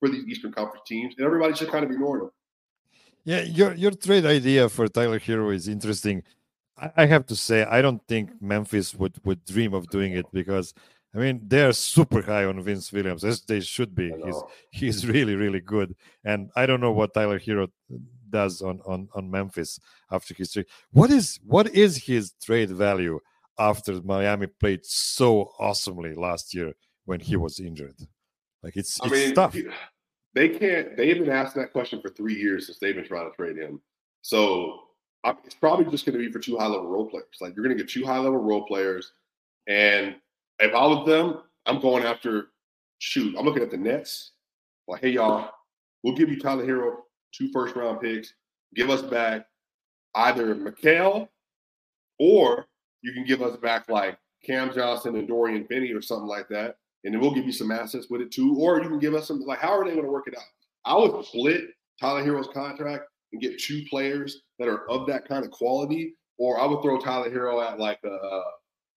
for these Eastern Conference teams, and everybody's just kind of ignoring them. Yeah, your your trade idea for Tyler Hero is interesting. I, I have to say, I don't think Memphis would, would dream of doing it because, I mean, they're super high on Vince Williams, as they should be. He's he's really, really good. And I don't know what Tyler Hero does on, on, on Memphis after his trade. What is what is his trade value after Miami played so awesomely last year when he was injured? Like, it's, I it's mean, tough. They can't. They've been asking that question for three years since they've been trying to trade him. So I, it's probably just going to be for two high level role players. Like, you're going to get two high level role players, and if I was them, I'm going after. Shoot, I'm looking at the Nets. Like, hey y'all, we'll give you Tyler Hero two first round picks. Give us back either Mikal, or you can give us back like Cam Johnson and Dorian Finney or something like that. And then we'll give you some assets with it too. Or you can give us some, like, how are they going to work it out? I would split Tyler Hero's contract and get two players that are of that kind of quality. Or I would throw Tyler Hero at like a, uh,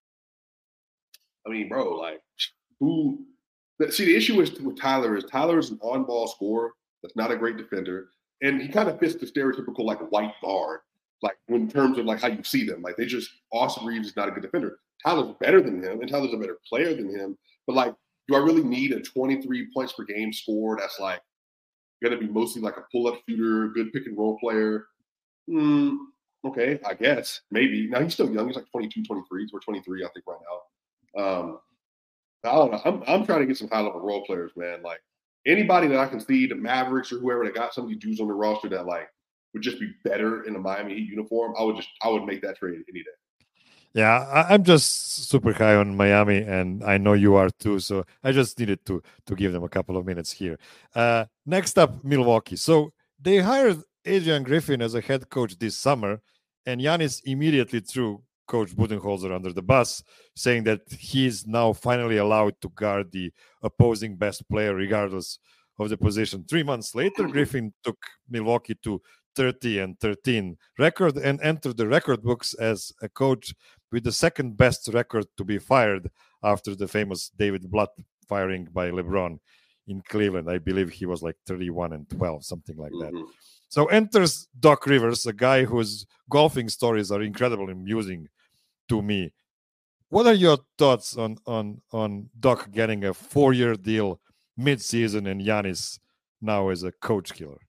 I mean, bro, like who, see, the issue is with Tyler is Tyler is an on-ball scorer that's not a great defender. And he kind of fits the stereotypical like white guard, like in terms of like how you see them. Like they just, Austin Reeves is not a good defender. Tyler's better than him, and Tyler's a better player than him. But, like, do I really need a twenty-three points per game score that's, like, going to be mostly like a pull-up shooter, good pick-and-roll player? Mm, okay, I guess. Maybe. Now, he's still young. He's like twenty-two, twenty-three. We're twenty-three, I think, right now. Um, I don't know. I'm, I'm trying to get some high-level role players, man. Like, anybody that I can see, the Mavericks or whoever that got some of these dudes on the roster that, like, would just be better in a Miami Heat uniform, I would just – I would make that trade any day. Yeah, I, I'm just super high on Miami, and I know you are too. So I just needed to to give them a couple of minutes here. Uh, next up, Milwaukee. So they hired Adrian Griffin as a head coach this summer, and Giannis immediately threw Coach Budenholzer under the bus, saying that he's now finally allowed to guard the opposing best player, regardless of the position. Three months later, Griffin took Milwaukee to thirty and thirteen record and entered the record books as a coach with the second best record to be fired after the famous David Blatt firing by LeBron in Cleveland. I believe he was like thirty-one and twelve, something like that. Mm-hmm. So enters Doc Rivers, a guy whose golfing stories are incredibly amusing to me. What are your thoughts on on on Doc getting a four-year deal mid-season and Giannis now as a coach killer?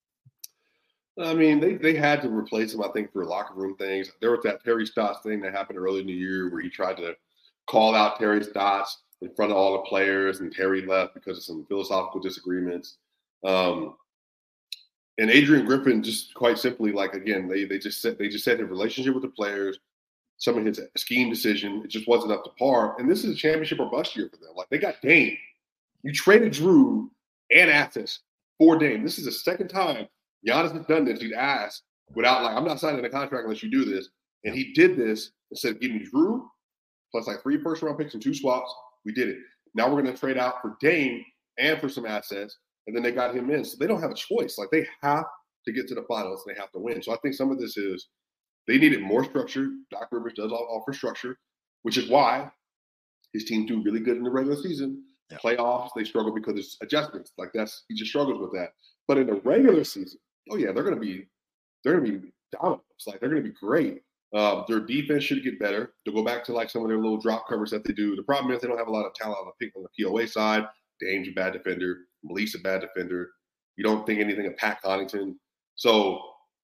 I mean, they, they had to replace him, I think, for locker room things. There was that Terry Stotts thing that happened early in the year where he tried to call out Terry Stotts in front of all the players, and Terry left because of some philosophical disagreements. Um, and Adrian Griffin, just quite simply, like, again, they they just said they just said his relationship with the players, some of his scheme decision, it just wasn't up to par. And this is a championship or bust year for them. Like, they got Dame. You traded Drew and assets for Dame. This is the second time Giannis has done this. He'd asked without, like, I'm not signing a contract unless you do this. And he did this and said, give me Drew plus like three first round picks and two swaps. We did it. Now we're going to trade out for Dame and for some assets. And then they got him in. So they don't have a choice. Like, they have to get to the finals and they have to win. So I think some of this is they needed more structure. Doc Rivers does offer structure, which is why his team do really good in the regular season. Yeah. Playoffs, they struggle because it's adjustments. Like, that's, he just struggles with that. But in the regular season, oh yeah, they're going to be, they're going to be dominant. Like, they're going to be great. Um, their defense should get better. To go back to like some of their little drop covers that they do. The problem is they don't have a lot of talent on the pick on the P O A side. Dame's a bad defender. Malik's a bad defender. You don't think anything of Pat Connaughton. So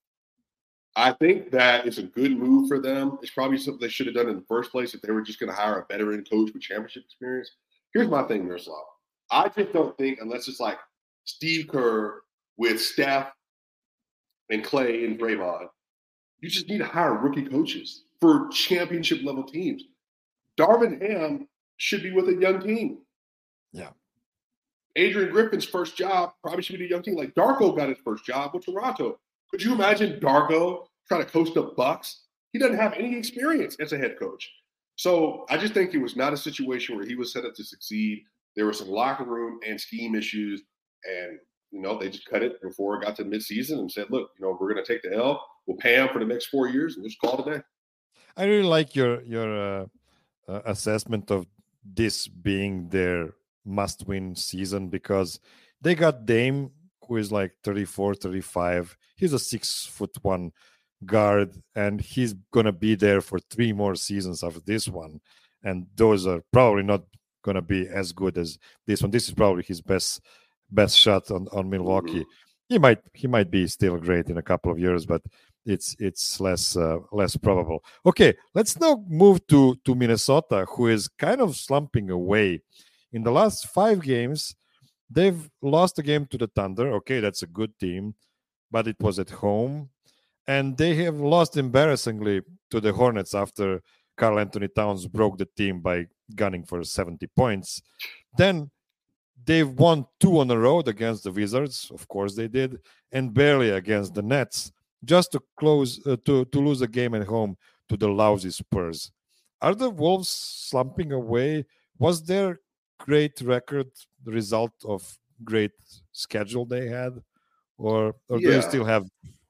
I think that it's a good move for them. It's probably something they should have done in the first place if they were just going to hire a veteran coach with championship experience. Here's my thing, Miroslav. I just don't think, unless it's like Steve Kerr with Steph and Clay and Draymond, you just need to hire rookie coaches for championship level teams. Darvin Ham should be with a young team. Yeah. Adrian Griffin's first job probably should be a young team. Like, Darko got his first job with Toronto. Could you imagine Darko trying to coach the Bucks? He doesn't have any experience as a head coach. So I just think it was not a situation where he was set up to succeed. There were some locker room and scheme issues, and, you know, they just cut it before it got to midseason and said, look, you know, we're going to take the L. We'll pay him for the next four years and just call it a day. I really like your your uh, uh, assessment of this being their must-win season, because They got Dame, who is like thirty-four, thirty-five. He's a six foot one guard, and he's gonna be there for three more seasons after this one. And those are probably not gonna be as good as this one. This is probably his best best shot on, on Milwaukee. Mm-hmm. He might he might be still great in a couple of years, but it's it's less uh, less probable. Okay, let's now move to to Minnesota, who is kind of slumping away. In the last five games, they've lost a game to the Thunder. Okay, that's a good team, but it was at home. And they have lost embarrassingly to the Hornets after Karl Anthony Towns broke the team by gunning for seventy points. Then they've won two on the road against the Wizards. Of course they did. And barely against the Nets, just to close uh, to, to lose a game at home to the lousy Spurs. Are the Wolves slumping away? Was their great record the result of great schedule they had? Or, or yeah. do you still have...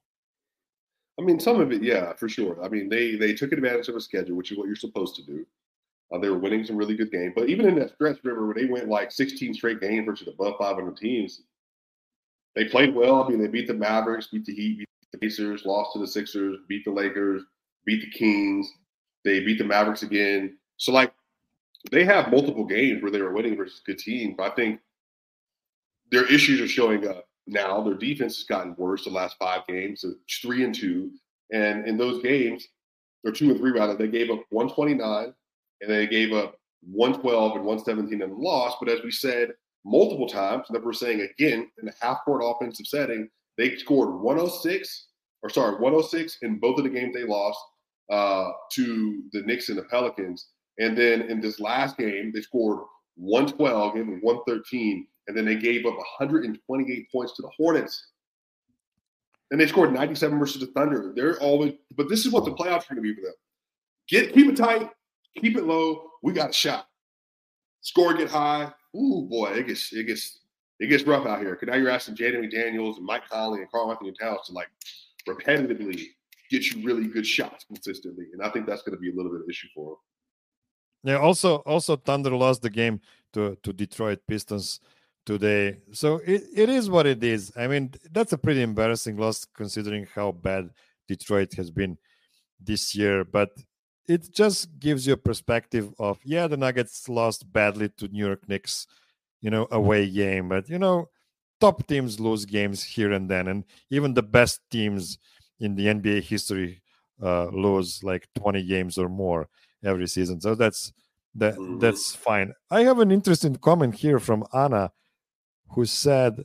I mean, some of it, yeah, for sure. I mean, they they took advantage of a schedule, which is what you're supposed to do. Uh, they were winning some really good games. But even in that stretch, River, where they went like sixteen straight games versus above five hundred teams, they played well. I mean, they beat the Mavericks, beat the Heat, beat the Pacers, lost to the Sixers, beat the Lakers, beat the Kings. They beat the Mavericks again. So, like, they have multiple games where they were winning versus good teams. But I think their issues are showing up now. Their defense has gotten worse the last five games. So it's three and two. And in those games, or two and three rather, they gave up one twenty-nine and they gave up one twelve and one seventeen in the loss. But as we said multiple times, and that we're saying again, in a half-court offensive setting, they scored one oh six, or sorry, one oh six in both of the games they lost uh, to the Knicks and the Pelicans. And then in this last game, they scored one twelve, gave them one thirteen, and then they gave up one hundred twenty-eight points to the Hornets. And they scored ninety-seven versus the Thunder. They're always, but this is what the playoffs are going to be for them. Get keep it tight, keep it low. We got a shot. Score get high. Ooh boy, it gets it gets it gets rough out here. Because now you're asking Jaden McDaniels and Mike Conley and Karl Anthony Towns to like repetitively get you really good shots consistently, and I think that's going to be a little bit of an issue for them. Yeah. Also, also Thunder lost the game to to Detroit Pistons today. So it, it is what it is. I mean, that's a pretty embarrassing loss considering how bad Detroit has been this year. But it just gives you a perspective of, yeah, the Nuggets lost badly to New York Knicks, you know, away game. But, you know, top teams lose games here and then. And even the best teams in the N B A history uh, lose like twenty games or more every season. So that's that, mm-hmm. that's fine. I have an interesting comment here from Anna, who said,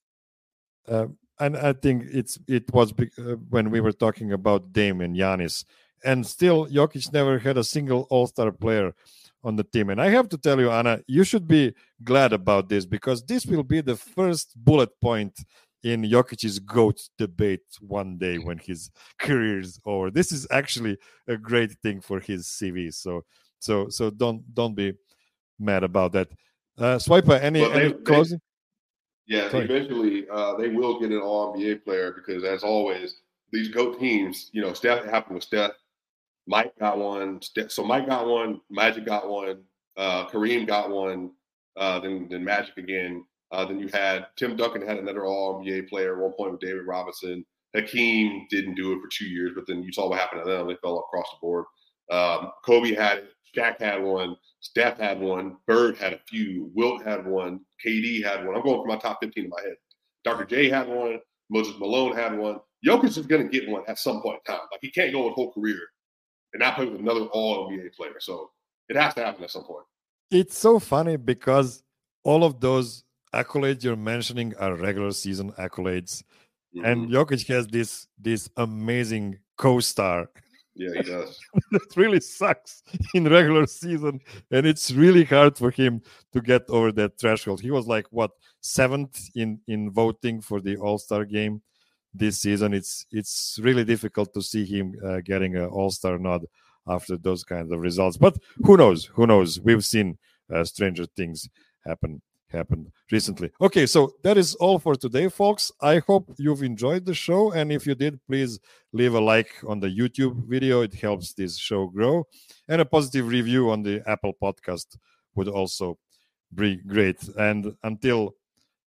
uh, and I think it's it was big, uh, when we were talking about Dame and Giannis, and still Jokic never had a single All-Star player on the team. And I have to tell you, Anna, you should be glad about this, because this will be the first bullet point in Jokic's GOAT debate one day when his career is over. This is actually a great thing for his C V. So, so, so don't don't be mad about that. Uh, Swiper, any, well, they, any closing? They, Yeah, Sorry. eventually uh, they will get an All N B A player because, as always, these GOAT teams, you know, Steph happened with Steph. Mike got one. Steph, so Mike got one. Magic got one. Uh, Kareem got one. Uh, then, then Magic again. Uh, then you had Tim Duncan had another All N B A player at one point with David Robinson. Hakeem didn't do it for two years, but then you saw what happened to them. They fell across the board. Um, Kobe had it. Shaq had one. Steph had one. Bird had a few. Wilt had one. K D had one. I'm going for my top fifteen in my head. Doctor J had one. Moses Malone had one. Jokic is going to get one at some point in time. Like, he can't go his whole career and not play with another All N B A player. So it has to happen at some point. It's so funny because all of those accolades you're mentioning are regular season accolades. Mm-hmm. And Jokic has this, this amazing co-star. Yeah, he does. That really sucks in regular season, and it's really hard for him to get over that threshold. He was like, what, seventh in, in voting for the All-Star game this season. It's it's really difficult to see him uh, getting an All-Star nod after those kinds of results. But who knows? Who knows? We've seen uh, stranger things happen happened recently. Okay, so that is all for today, folks. I hope you've enjoyed the show, and if you did, please leave a like on the YouTube video. It helps this show grow, and a positive review on the Apple podcast would also be great. And until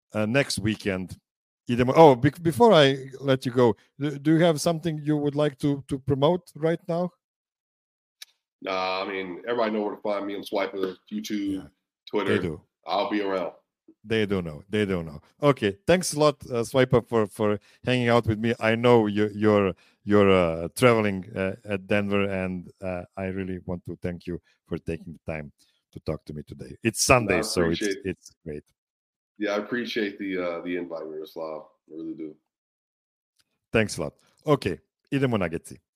uh, next weekend. Oh, be- before I let you go, do, do you have something you would like to to promote right now? Nah, I mean, everybody know where to find me on Swiper, YouTube, Yeah, Twitter. they do. I'll be around. They don't know. They don't know. Okay, thanks a lot, uh, Swiper, for for hanging out with me. I know you, you're you're uh, traveling uh, at Denver, and uh, I really want to thank you for taking the time to talk to me today. It's Sunday, so it's it's great. Yeah, I appreciate the uh, the invite, Miroslav. I really do. Thanks a lot. Okay, idemo na Getsi.